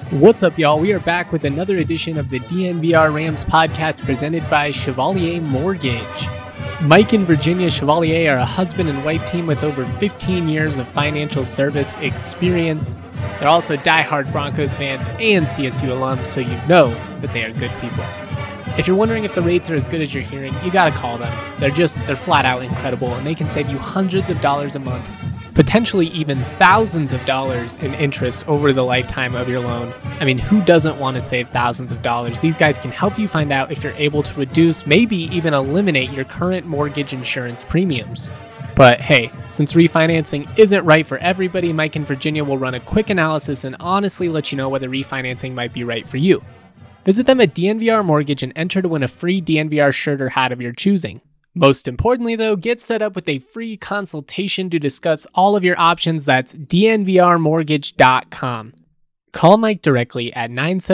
What's up, y'all? We are back with another edition of the DNVR Rams podcast presented by Chevalier Mortgage. Mike and Virginia Chevalier are a husband and wife team with over 15 years of financial service experience. They're also diehard Broncos fans and CSU alums, so you know that they are good people. If you're wondering if the rates are as good as you're hearing, you gotta call them. They're flat out incredible, and they can save you hundreds of dollars a month, potentially even thousands of dollars in interest over the lifetime of your loan. I mean, who doesn't want to save thousands of dollars? These guys can help you find out if you're able to reduce, maybe even eliminate your current mortgage insurance premiums. But hey, since refinancing isn't right for everybody, Mike and Virginia will run a quick analysis and honestly let you know whether refinancing might be right for you. Visit them at DNVR Mortgage and enter to win a free DNVR shirt or hat of your choosing. Most importantly, though, get set up with a free consultation to discuss all of your options. That's dnvrmortgage.com. Call Mike directly at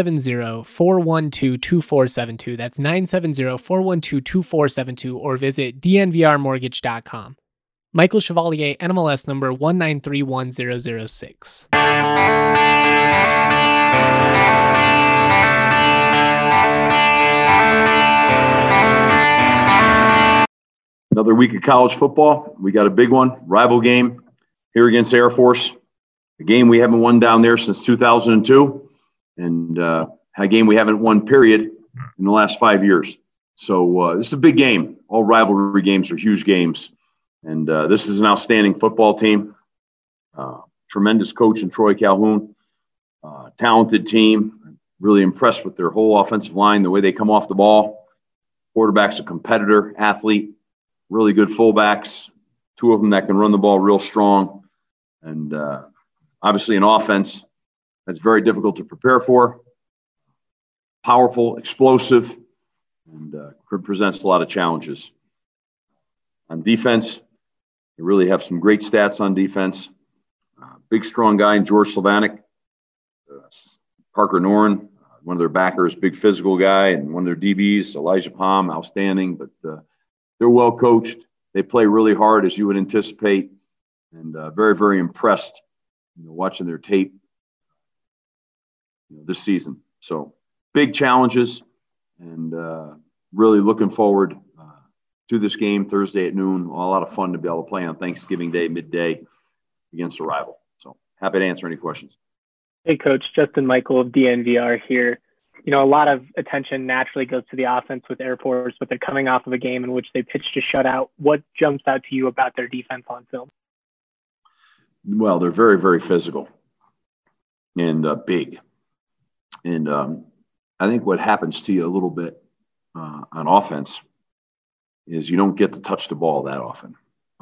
970-412-2472. That's 970-412-2472, or visit dnvrmortgage.com. Michael Chevalier, NMLS number 1931006. Another week of college football. We got a big one, rival game here against Air Force. A game we haven't won down there since 2002, and a game we haven't won, period, in the last 5 years. So this is a big game. All rivalry games are huge games. And this is an outstanding football team. Tremendous coach in Troy Calhoun. Talented team. Really impressed with their whole offensive line, the way they come off the ball. Quarterback's a competitor, athlete. Really good fullbacks, two of them that can run the ball real strong. And obviously an offense that's very difficult to prepare for. Powerful, explosive, and presents a lot of challenges. On defense, they really have some great stats on defense. Big, strong guy in George Sylvanik. Parker Noren, one of their backers, big physical guy, and one of their DBs, Elijah Palm, outstanding, but they're well coached. They play really hard, as you would anticipate, and very, very impressed, watching their tape this season. So big challenges, and really looking forward to this game Thursday at noon. A lot of fun to be able to play on Thanksgiving Day, midday, against a rival. So happy to answer any questions. Hey, Coach. Justin Michael of DNVR here. A lot of attention naturally goes to the offense with Air Force, but they're coming off of a game in which they pitched a shutout. What jumps out to you about their defense on film? Well, they're very, very physical and big. And I think what happens to you a little bit on offense is you don't get to touch the ball that often.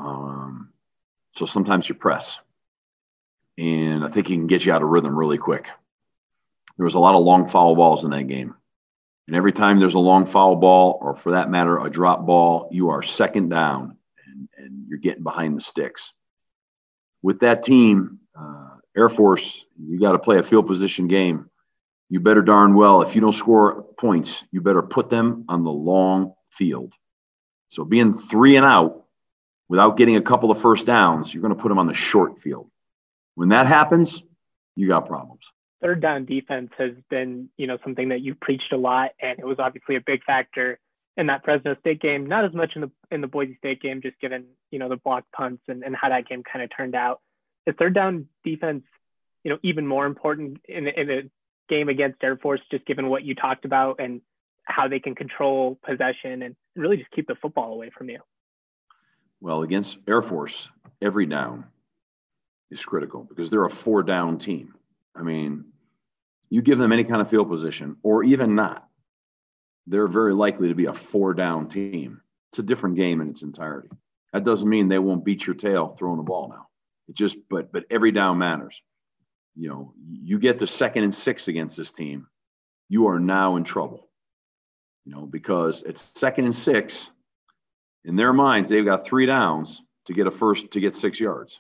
So sometimes you press. And I think he can get you out of rhythm really quick. There was a lot of long foul balls in that game. And every time there's a long foul ball, or for that matter, a drop ball, you are second down and you're getting behind the sticks. With that team, Air Force, you got to play a field position game. You better darn well, if you don't score points, you better put them on the long field. So being 3 and out without getting a couple of first downs, you're going to put them on the short field. When that happens, you got problems. Third down defense has been, something that you've preached a lot, and it was obviously a big factor in that Fresno State game. Not as much in the Boise State game, just given, the blocked punts and how that game kind of turned out. Is third down defense, even more important in a game against Air Force, just given what you talked about and how they can control possession and really just keep the football away from you? Well, against Air Force, every down is critical because they're a 4-down team. I mean, you give them any kind of field position, or even not, they're very likely to be a 4-down team. It's a different game in its entirety. That doesn't mean they won't beat your tail throwing the ball now. But every down matters. You get to 2nd and 6 against this team, you are now in trouble. Because it's 2nd and 6. In their minds, they've got 3 downs to get to get 6 yards.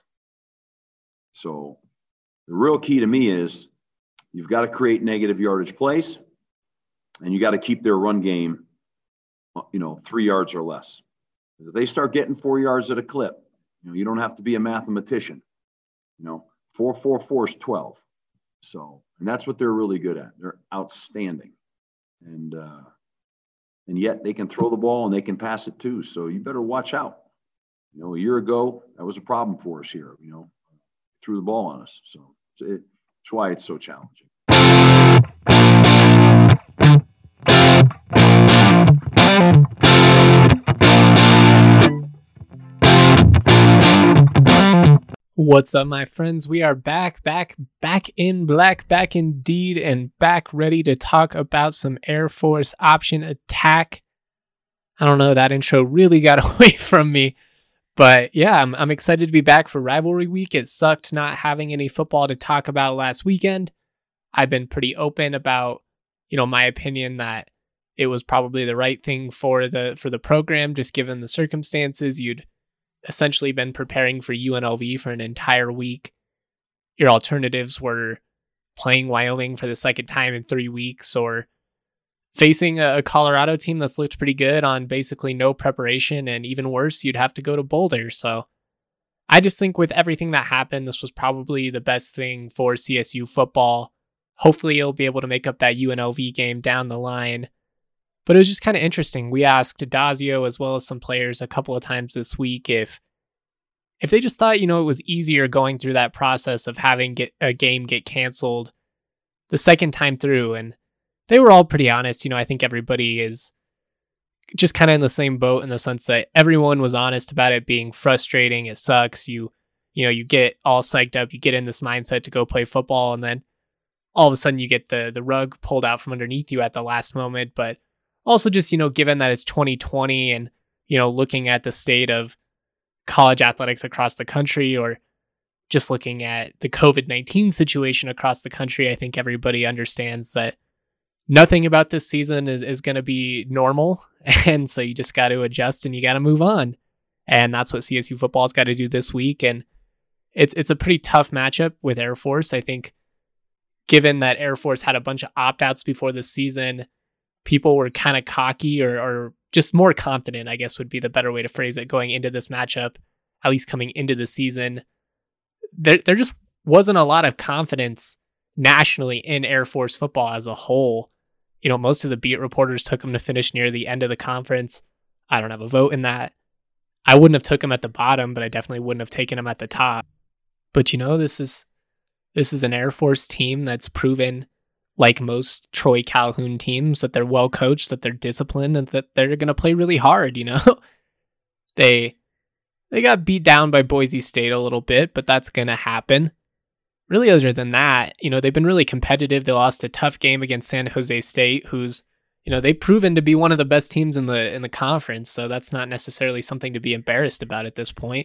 So the real key to me is you've got to create negative yardage plays, and you got to keep their run game, 3 yards or less. If they start getting 4 yards at a clip, you don't have to be a mathematician. 4 is 12. So, and that's what they're really good at. They're outstanding. And yet they can throw the ball and they can pass it too. So you better watch out. A year ago, that was a problem for us here, threw the ball on us. So it's why it's so challenging. What's up, my friends? We are back in black, back indeed, and back ready to talk about some Air Force option attack. I don't know, that intro really got away from me. But yeah, I'm excited to be back for rivalry week. It sucked not having any football to talk about last weekend. I've been pretty open about, my opinion that it was probably the right thing for the program, just given the circumstances. You'd essentially been preparing for UNLV for an entire week. Your alternatives were playing Wyoming for the second time in 3 weeks, or facing a Colorado team that's looked pretty good on basically no preparation, and even worse, you'd have to go to Boulder. So I just think with everything that happened, this was probably the best thing for CSU football. Hopefully you'll be able to make up that UNLV game down the line. But it was just kind of interesting. We asked Dazio as well as some players a couple of times this week if they just thought, it was easier going through that process of having a game get canceled the second time through. And they were all pretty honest. I think everybody is just kind of in the same boat in the sense that everyone was honest about it being frustrating. It sucks. You get all psyched up. You get in this mindset to go play football, and then all of a sudden you get the rug pulled out from underneath you at the last moment. But also just, given that it's 2020 and, looking at the state of college athletics across the country, or just looking at the COVID-19 situation across the country, I think everybody understands that nothing about this season is going to be normal. And so you just got to adjust and you got to move on. And that's what CSU football's got to do this week. And it's a pretty tough matchup with Air Force. I think given that Air Force had a bunch of opt-outs before the season, people were kind of cocky or just more confident, I guess would be the better way to phrase it, going into this matchup, at least coming into the season. There just wasn't a lot of confidence nationally in Air Force football as a whole. Most of the beat reporters took them to finish near the end of the conference. I don't have a vote in that. I wouldn't have took them at the bottom, but I definitely wouldn't have taken them at the top. But this is an Air Force team that's proven, like most Troy Calhoun teams, that they're well coached, that they're disciplined, and that they're going to play really hard. They got beat down by Boise State a little bit, but that's going to happen. Really, other than that, they've been really competitive. They lost a tough game against San Jose State, who's, they've proven to be one of the best teams in the conference. So that's not necessarily something to be embarrassed about at this point.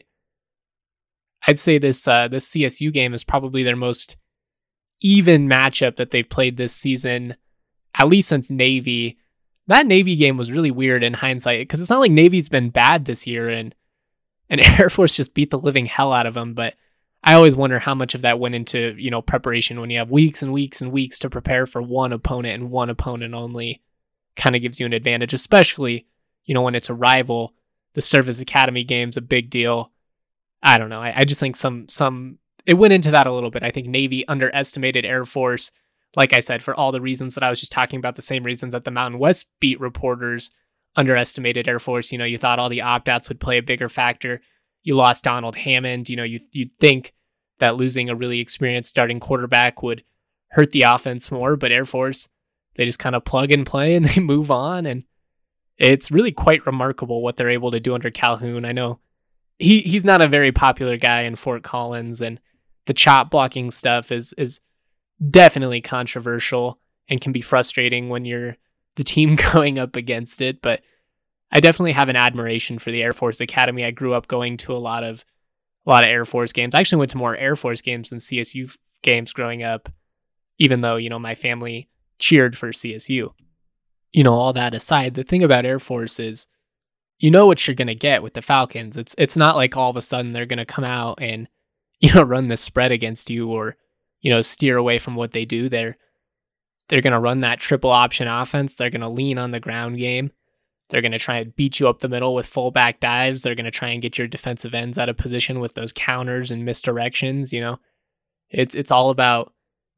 I'd say this CSU game is probably their most even matchup that they've played this season, at least since Navy. That Navy game was really weird in hindsight, because it's not like Navy's been bad this year and Air Force just beat the living hell out of them. But I always wonder how much of that went into, preparation when you have weeks and weeks and weeks to prepare for one opponent and one opponent only. Kind of gives you an advantage, especially, when it's a rival. The Service Academy game's a big deal. I don't know. I just think it went into that a little bit. I think Navy underestimated Air Force, like I said, for all the reasons that I was just talking about, the same reasons that the Mountain West beat reporters underestimated Air Force. You thought all the opt-outs would play a bigger factor. You lost Donald Hammond. You'd think that losing a really experienced starting quarterback would hurt the offense more, but Air Force, they just kind of plug and play and they move on. And it's really quite remarkable what they're able to do under Calhoun. I know he's not a very popular guy in Fort Collins, and the chop blocking stuff is definitely controversial and can be frustrating when you're the team going up against it. But I definitely have an admiration for the Air Force Academy. I grew up going to a lot of Air Force games. I actually went to more Air Force games than CSU games growing up, even though, my family cheered for CSU. All that aside, the thing about Air Force is, what you're going to get with the Falcons. It's not like all of a sudden they're going to come out and, run the spread against you or, steer away from what they do. They're going to run that triple option offense. They're going to lean on the ground game. They're going to try and beat you up the middle with fullback dives. They're going to try and get your defensive ends out of position with those counters and misdirections. It's all about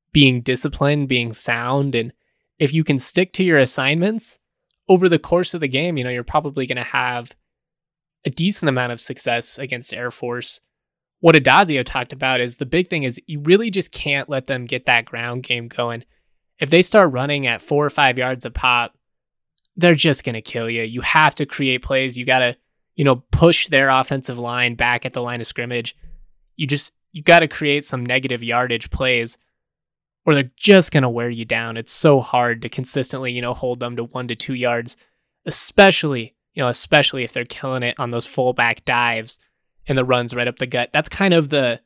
being disciplined, being sound. And if you can stick to your assignments over the course of the game, you're probably going to have a decent amount of success against Air Force. What Addazio talked about is the big thing is you really just can't let them get that ground game going. If they start running at 4 or 5 yards a pop, they're just going to kill you. You have to create plays. You got to, push their offensive line back at the line of scrimmage. You got to create some negative yardage plays or they're just going to wear you down. It's so hard to consistently, hold them to 1 to 2 yards, especially if they're killing it on those fullback dives and the runs right up the gut. That's kind of the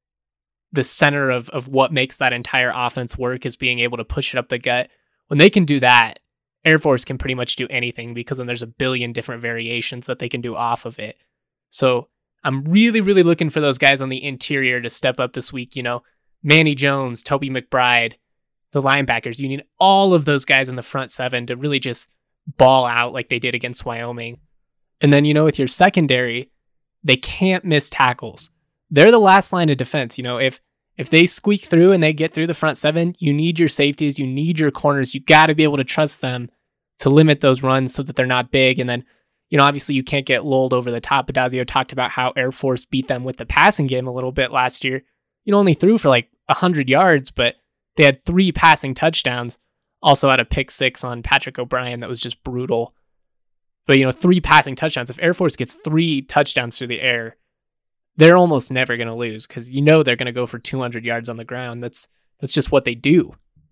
center of what makes that entire offense work, is being able to push it up the gut. When they can do that, Air Force can pretty much do anything, because then there's a billion different variations that they can do off of it. So I'm really, really looking for those guys on the interior to step up this week. Manny Jones, Toby McBride, the linebackers. You need all of those guys in the front seven to really just ball out like they did against Wyoming. And then, with your secondary, they can't miss tackles. They're the last line of defense. If they squeak through and they get through the front seven, you need your safeties, you need your corners. You got to be able to trust them to limit those runs so that they're not big. And then, obviously you can't get lulled over the top. Addazio talked about how Air Force beat them with the passing game a little bit last year. Only threw for like 100 yards, but they had 3 passing touchdowns. Also had a pick 6 on Patrick O'Brien that was just brutal. But, 3 passing touchdowns. If Air Force gets 3 touchdowns through the air, they're almost never going to lose, because they're going to go for 200 yards on the ground. That's just what they do.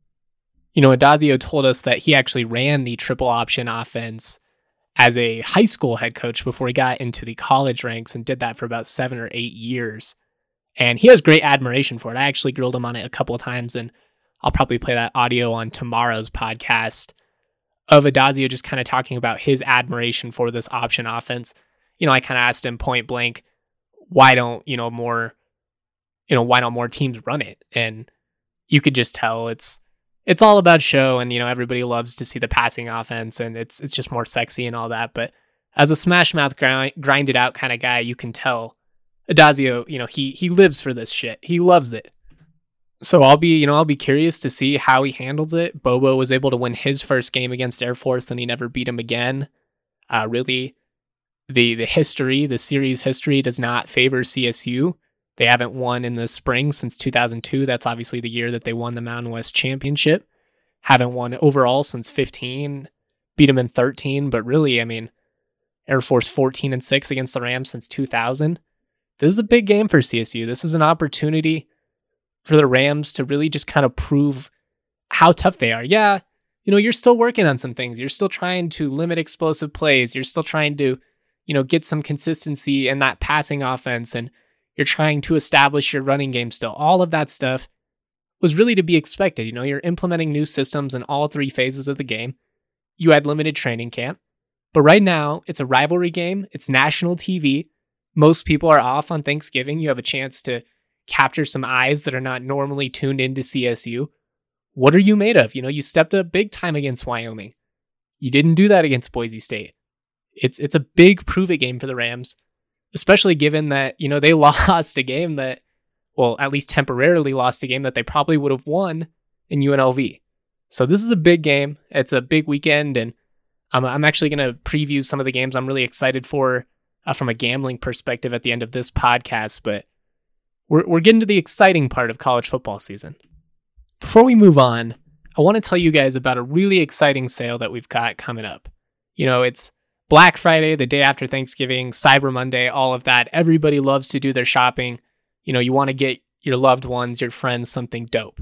Addazio told us that he actually ran the triple option offense as a high school head coach before he got into the college ranks, and did that for about 7 or 8 years. And he has great admiration for it. I actually grilled him on it a couple of times, and I'll probably play that audio on tomorrow's podcast of Addazio just kind of talking about his admiration for this option offense. I kind of asked him point blank, why don't more teams run it? And you could just tell it's all about show, and everybody loves to see the passing offense, and it's just more sexy and all that. But as a smash mouth grind it out kind of guy, you can tell Addazio, he lives for this shit. He loves it. So I'll be curious to see how he handles it. Bobo was able to win his first game against Air Force, and he never beat him again. Really, the series history does not favor CSU. They haven't won in the spring since 2002. That's obviously the year that they won the Mountain West Championship. Haven't won overall since 15. Beat them in 13, but really, Air Force 14-6 against the Rams since 2000. This is a big game for CSU. This is an opportunity for the Rams to really just kind of prove how tough they are. Yeah, you're still working on some things. You're still trying to limit explosive plays. You're still trying to, get some consistency in that passing offense, and you're trying to establish your running game still. All of that stuff was really to be expected. You're implementing new systems in all 3 phases of the game. You had limited training camp. But right now, it's a rivalry game. It's national TV. Most people are off on Thanksgiving. You have a chance to capture some eyes that are not normally tuned into CSU. What are you made of? You stepped up big time against Wyoming. You didn't do that against Boise State. It's a big prove-it game for the Rams, especially given that, they lost a game that, well, at least temporarily lost a game that they probably would have won in UNLV. So this is a big game. It's a big weekend, and I'm actually going to preview some of the games I'm really excited for from a gambling perspective at the end of this podcast, but we're getting to the exciting part of college football season. Before we move on, I want to tell you guys about a really exciting sale that we've got coming up. It's Black Friday, the day after Thanksgiving, Cyber Monday, all of that. Everybody loves to do their shopping. You want to get your loved ones, your friends, something dope.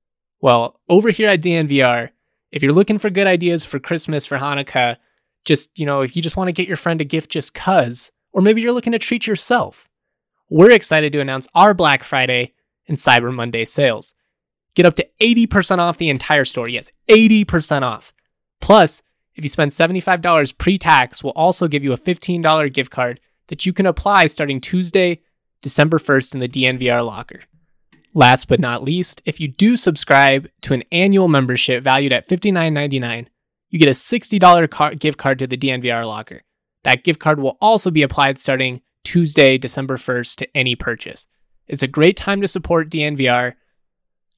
Well, over here at DNVR, if you're looking for good ideas for Christmas, for Hanukkah, just, if you just want to get your friend a gift just cuz, or maybe you're looking to treat yourself, we're excited to announce our Black Friday and Cyber Monday sales. Get up to 80% off the entire store. Yes, 80% off. Plus, if you spend $75 pre-tax, we'll also give you a $15 gift card that you can apply starting Tuesday, December 1st in the DNVR locker. Last but not least, if you do subscribe to an annual membership valued at $59.99, you get a $60 gift card to the DNVR locker. That gift card will also be applied starting Tuesday, December 1st to any purchase. It's a great time to support DNVR.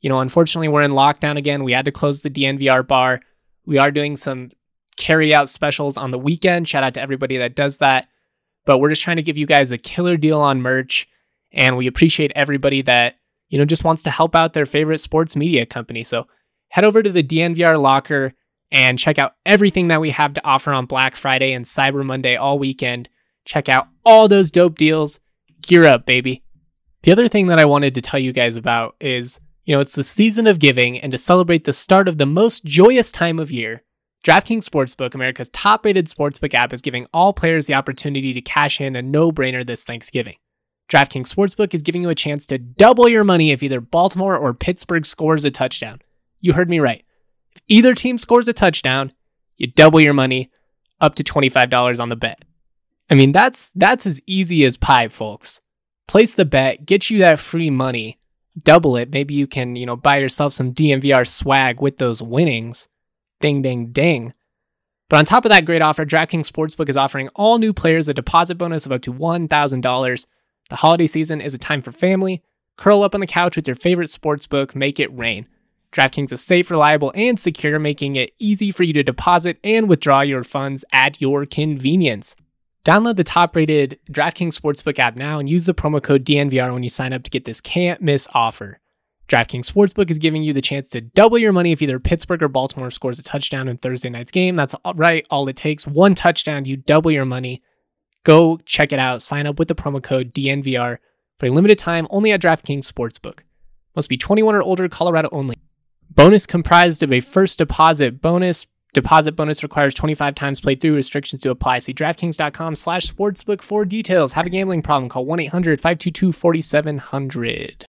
Unfortunately, we're in lockdown again. We had to close the DNVR bar. We are doing some carry-out specials on the weekend. Shout out to everybody that does that. But we're just trying to give you guys a killer deal on merch. And we appreciate everybody that, just wants to help out their favorite sports media company. So head over to the DNVR locker and check out everything that we have to offer on Black Friday and Cyber Monday all weekend. Check out all those dope deals. Gear up, baby. The other thing that I wanted to tell you guys about is, it's the season of giving, and to celebrate the start of the most joyous time of year, DraftKings Sportsbook, America's top-rated sportsbook app, is giving all players the opportunity to cash in a no-brainer this Thanksgiving. DraftKings Sportsbook is giving you a chance to double your money if either Baltimore or Pittsburgh scores a touchdown. You heard me right. If either team scores a touchdown, you double your money up to $25 on the bet. I mean, that's as easy as pie, folks. Place the bet, get you that free money, double it. Maybe you can, buy yourself some DNVR swag with those winnings. Ding, ding, ding. But on top of that great offer, DraftKings Sportsbook is offering all new players a deposit bonus of up to $1,000. The holiday season is a time for family. Curl up on the couch with your favorite sportsbook. Make it rain. DraftKings is safe, reliable, and secure, making it easy for you to deposit and withdraw your funds at your convenience. Download the top-rated DraftKings Sportsbook app now and use the promo code DNVR when you sign up to get this can't-miss offer. DraftKings Sportsbook is giving you the chance to double your money if either Pittsburgh or Baltimore scores a touchdown in Thursday night's game. That's right, all it takes. One touchdown, you double your money. Go check it out. Sign up with the promo code DNVR for a limited time only at DraftKings Sportsbook. Must be 21 or older, Colorado only. Bonus comprised of a first deposit bonus. Deposit bonus requires 25 times played through. Restrictions to apply. See DraftKings.com/sportsbook for details. Have a gambling problem? Call 1-800-522-4700.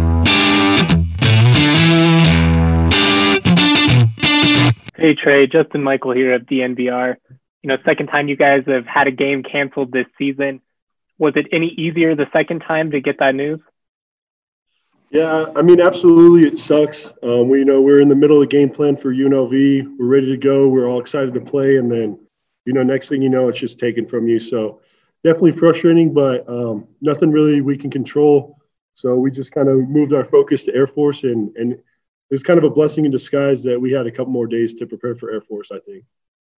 Hey Trey, Justin Michael here of DNVR. Second time you guys have had a game canceled this season. Was it any easier the second time to get that news? Yeah, I mean, absolutely, it sucks. We're in the middle of the game plan for UNLV. We're ready to go. We're all excited to play, and then, next thing you know, it's just taken from you. So definitely frustrating, but nothing really we can control. So we just kind of moved our focus to Air Force, and it was kind of a blessing in disguise that we had a couple more days to prepare for Air Force, I think.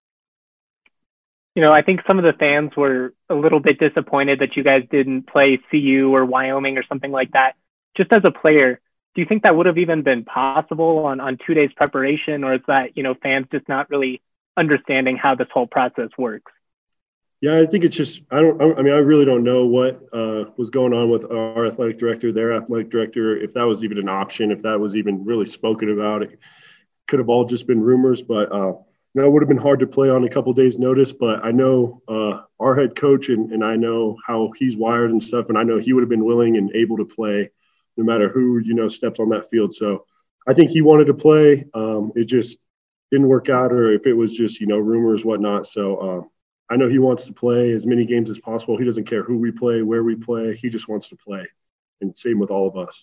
I think some of the fans were a little bit disappointed that you guys didn't play CU or Wyoming or something like that. Just as a player, do you think that would have even been possible on 2 days preparation, or is that, fans just not really understanding how this whole process works? Yeah, I think it's just, I really don't know what was going on with our athletic director, their athletic director, if that was even an option, if that was even really spoken about. It could have all just been rumors, but it would have been hard to play on a couple days' notice. But I know our head coach, and I know how he's wired and stuff, and I know he would have been willing and able to play no matter who, steps on that field. So I think he wanted to play. It just didn't work out, or if it was just, rumors, whatnot. So I know he wants to play as many games as possible. He doesn't care who we play, where we play. He just wants to play. And same with all of us.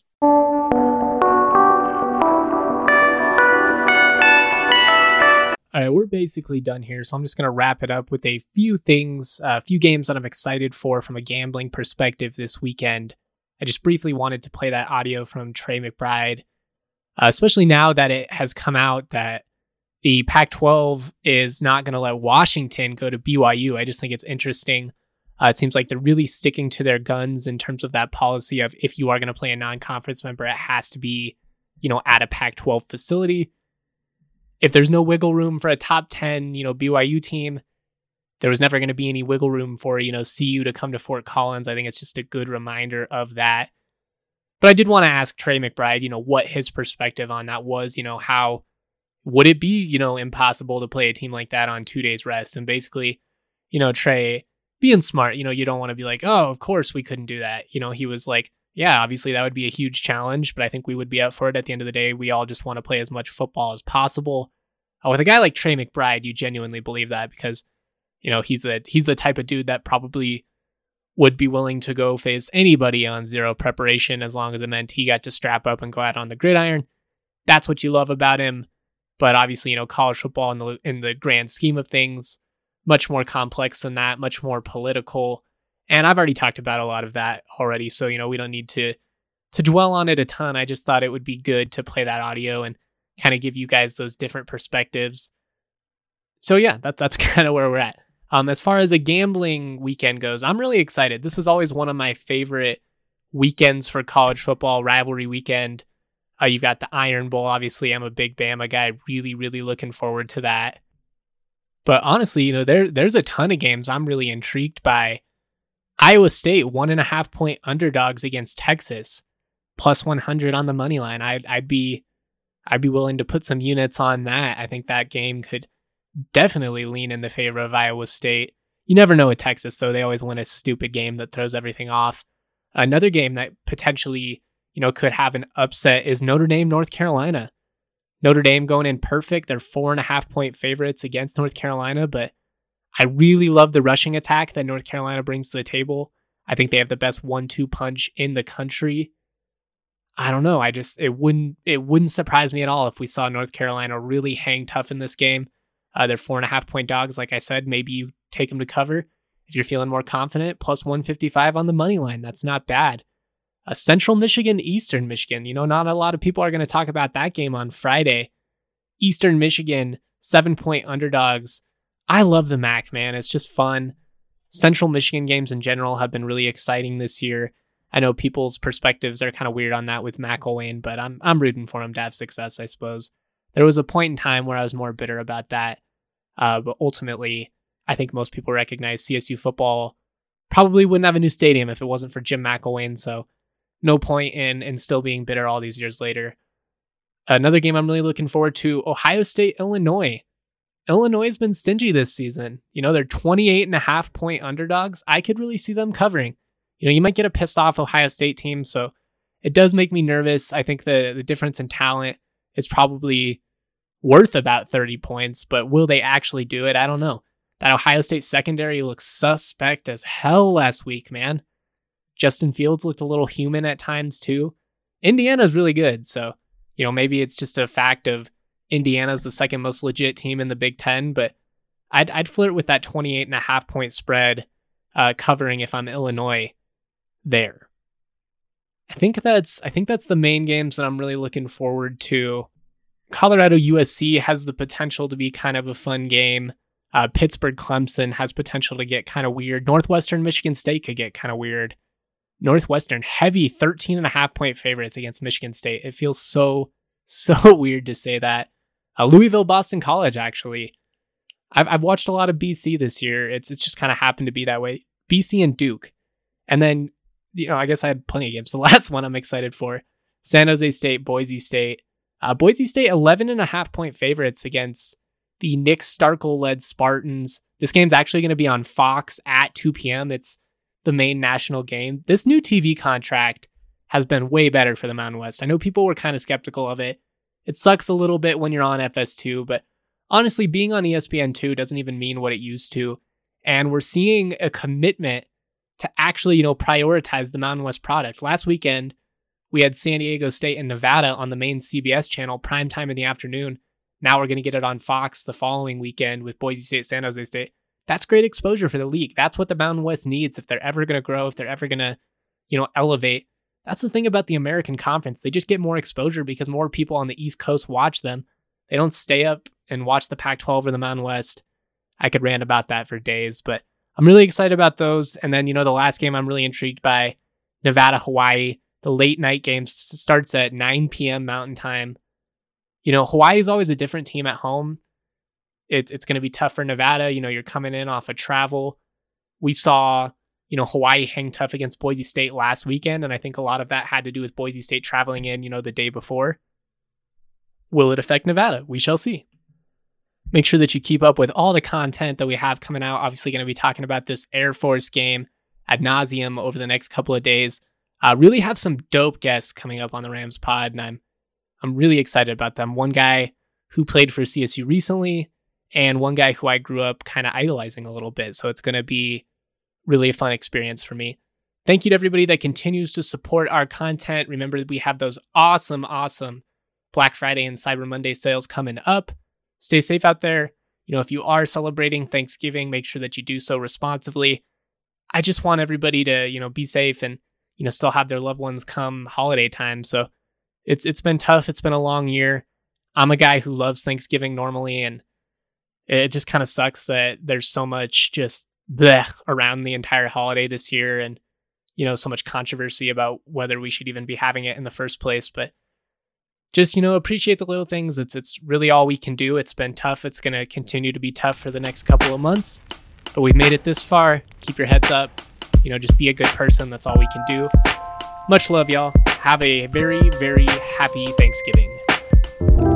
All right, we're basically done here, so I'm just going to wrap it up with a few things, a few games that I'm excited for from a gambling perspective this weekend. I just briefly wanted to play that audio from Trey McBride, especially now that it has come out that the Pac-12 is not going to let Washington go to BYU. I just think it's interesting. It seems like they're really sticking to their guns in terms of that policy of if you are going to play a non-conference member, it has to be, at a Pac-12 facility. If there's no wiggle room for a top 10, BYU team, there was never going to be any wiggle room for, CU to come to Fort Collins. I think it's just a good reminder of that. But I did want to ask Trey McBride, what his perspective on that was, how would it be, impossible to play a team like that on 2 days rest? And basically, Trey being smart, you don't want to be like, oh, of course we couldn't do that. He was like, yeah, obviously that would be a huge challenge, but I think we would be up for it at the end of the day. We all just want to play as much football as possible. With a guy like Trey McBride, you genuinely believe that because, he's the type of dude that probably would be willing to go face anybody on zero preparation as long as it meant he got to strap up and go out on the gridiron. That's what you love about him. But obviously, college football in the grand scheme of things, much more complex than that, much more political. And I've already talked about a lot of that already. So, we don't need to to dwell on it a ton. I just thought it would be good to play that audio and kind of give you guys those different perspectives. So yeah, that's kind of where we're at. As far as a gambling weekend goes, I'm really excited. This is always one of my favorite weekends for college football, rivalry weekend. You've got the Iron Bowl. Obviously, I'm a big Bama guy. Really, really looking forward to that. But honestly, there's a ton of games I'm really intrigued by. Iowa State, 1.5 point underdogs against Texas, plus 100 on the money line. I'd be willing to put some units on that. I think that game could definitely lean in the favor of Iowa State. You never know with Texas, though. They always win a stupid game that throws everything off. Another game that potentially, could have an upset is Notre Dame, North Carolina. Notre Dame going in perfect. They're 4.5 point favorites against North Carolina, but I really love the rushing attack that North Carolina brings to the table. I think they have the best 1-2 punch in the country. I don't know. It wouldn't surprise me at all if we saw North Carolina really hang tough in this game. They're 4.5 point dogs. Like I said, maybe you take them to cover. If you're feeling more confident, plus 155 on the money line. That's not bad. Central Michigan, Eastern Michigan. Not a lot of people are going to talk about that game on Friday. Eastern Michigan, 7 point underdogs. I love the MAC, man. It's just fun. Central Michigan games in general have been really exciting this year. I know people's perspectives are kind of weird on that with McElwain, but I'm rooting for him to have success, I suppose. There was a point in time where I was more bitter about that. But ultimately, I think most people recognize CSU football probably wouldn't have a new stadium if it wasn't for Jim McElwain. So no point in still being bitter all these years later. Another game I'm really looking forward to, Ohio State, Illinois. Illinois has been stingy this season. They're 28.5 point underdogs. I could really see them covering. You might get a pissed off Ohio State team, so it does make me nervous. I think the difference in talent is probably worth about 30 points, but will they actually do it? I don't know. That Ohio State secondary looks suspect as hell last week, man. Justin Fields looked a little human at times too. Indiana's really good, so maybe it's just a fact of Indiana's the second most legit team in the Big Ten, but I'd flirt with that 28.5 point spread covering if I'm Illinois there. I think that's the main games that I'm really looking forward to. Colorado USC has the potential to be kind of a fun game. Pittsburgh Clemson has potential to get kind of weird. Northwestern Michigan State could get kind of weird. Northwestern heavy 13.5 point favorites against Michigan State. It feels so weird to say that. Louisville Boston College, actually. I've watched a lot of BC this year. It's just kind of happened to be that way. BC and Duke. And then, I guess I had plenty of games. The last one I'm excited for. San Jose State, Boise State. Boise State 11.5 point favorites against the Nick Starkel-led Spartans. This game's actually going to be on Fox at 2 p.m. It's the main national game. This new TV contract has been way better for the Mountain West. I know people were kind of skeptical of it. It sucks a little bit when you're on FS2, but honestly, being on ESPN2 doesn't even mean what it used to. And we're seeing a commitment to actually, prioritize the Mountain West product. Last weekend, we had San Diego State and Nevada on the main CBS channel, prime time in the afternoon. Now we're going to get it on Fox the following weekend with Boise State, San Jose State. That's great exposure for the league. That's what the Mountain West needs if they're ever going to grow, if they're ever going to, elevate. That's the thing about the American Conference. They just get more exposure because more people on the East Coast watch them. They don't stay up and watch the Pac-12 or the Mountain West. I could rant about that for days, but I'm really excited about those. And then, the last game I'm really intrigued by, Nevada, Hawaii. The late night game starts at 9 p.m. Mountain Time. Hawaii is always a different team at home. It's going to be tough for Nevada. You're coming in off of travel. We saw, Hawaii hang tough against Boise State last weekend, and I think a lot of that had to do with Boise State traveling in, the day before. Will it affect Nevada? We shall see. Make sure that you keep up with all the content that we have coming out. Obviously going to be talking about this Air Force game ad nauseum over the next couple of days. Really have some dope guests coming up on the Rams pod, and I'm really excited about them. One guy who played for CSU recently, and one guy who I grew up kind of idolizing a little bit. So it's going to be really a fun experience for me. Thank you to everybody that continues to support our content. Remember that we have those awesome Black Friday and Cyber Monday sales coming up. Stay safe out there. If you are celebrating Thanksgiving, make sure that you do so responsibly. I just want everybody to, be safe and still have their loved ones come holiday time. So it's been tough. It's been a long year. I'm a guy who loves Thanksgiving normally, and it just kind of sucks that there's so much just bleh around the entire holiday this year, and so much controversy about whether we should even be having it in the first place. But just appreciate the little things. It's really all we can do. It's been tough. It's going to continue to be tough for the next couple of months, but we've made it this far. Keep your heads up. Just be a good person. That's all we can do. Much love, y'all. Have a very, very happy Thanksgiving.